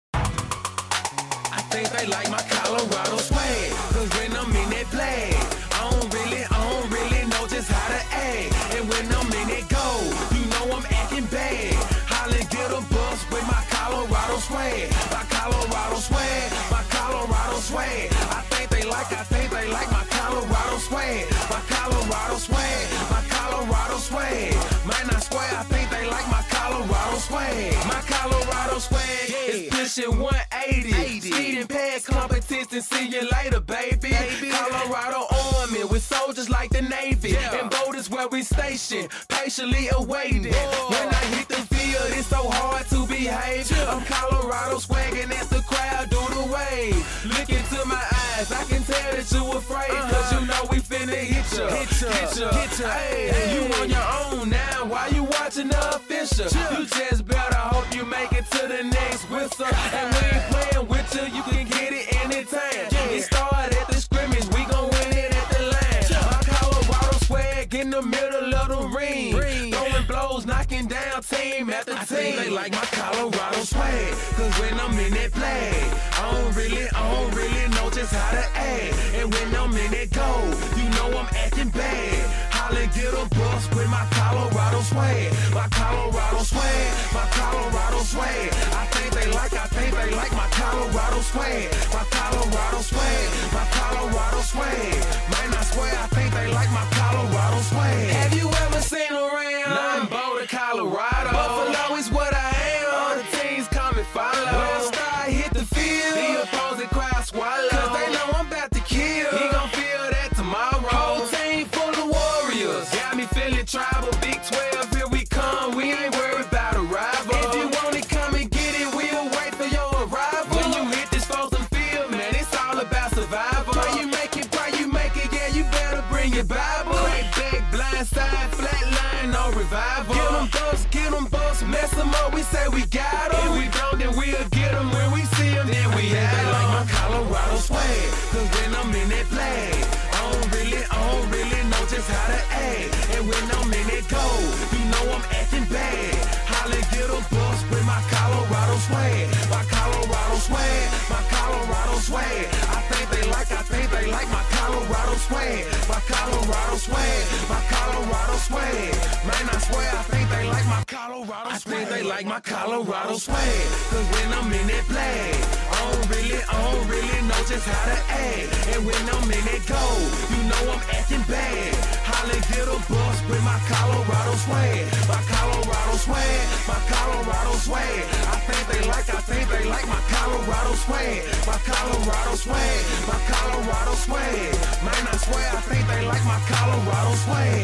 I think they like my Colorado swag, 'cause when I'm in that play, I don't really know just how to act. And when I'm in that go, you know I'm acting bad. Holla, get a bus with my Colorado swag. My Colorado swag, my Colorado swag. I think they like my Colorado swag. My Colorado swag, my Colorado swag. Man, I swear, I think they like my Colorado swag. My Colorado swag is pushing 180. Speeding past competition, see you later, baby. Colorado Army with soldiers like the Navy. And boat is where we station, patiently awaiting. When I hit the field, it's so hard to behave. I'm Colorado swagging as the crowd do the wave. Look into my eyes, I can tell that you afraid. 'Cause you know we finna hit ya. Hey, you on your own now, why you watching the official? You just better hope you make it to the next whistle. And we ain't playing with you, you can get it anytime. It started at the scrimmage, we gon' win it at the line. My Colorado swag in the middle of the ring. Throwing blows, knocking down team after team. I think they like my Colorado swag, 'cause when I'm in that play, I don't really know just how to act. And when I'm in that go, you know I'm acting bad. Holla, get a bus with my Colorado swag. My Colorado swag, my Colorado swag. I think they like my Colorado swag. My Colorado swag, my Colorado swag. Man, I swear, I think they like my Colorado swag. Have you ever seen around? Nothing but Colorado. Buffalo is what I am. All the teams come and follow. When I start hit the field, the opposing crowd swallow. 'Cause they know I'm about to kill. He gon' feel that tomorrow. Whole team full of warriors. Got me feeling tribal. Big 12, here we come. We ain't worried about a rival. If you want it, come and get it. We'll wait for your arrival. When you hit this frozen field, man, it's all about survival. Pray you make it, yeah, you better bring your Bible. Crack back, blind side, flat line, no revival. Get them bucks, mess them up, we say we got them. If we don't, then we'll get them. When we see them, then we have them. They like my Colorado swag, 'cause when I'm in that flag, I don't really know just how to act. And when I'm in that go, you know I'm acting bad. Holla, get a bus with my Colorado Colorado swag. I think they like my Colorado swag. Cause when I'm in that flag, I don't really know just how to act. And when I'm in that goal, you know I'm acting bad. Holla, get a bus with my Colorado swag. My Colorado swag, my Colorado swag. I think they like my Colorado swag. My Colorado swag, my Colorado swag. Man, I swear I think they like my Colorado swag.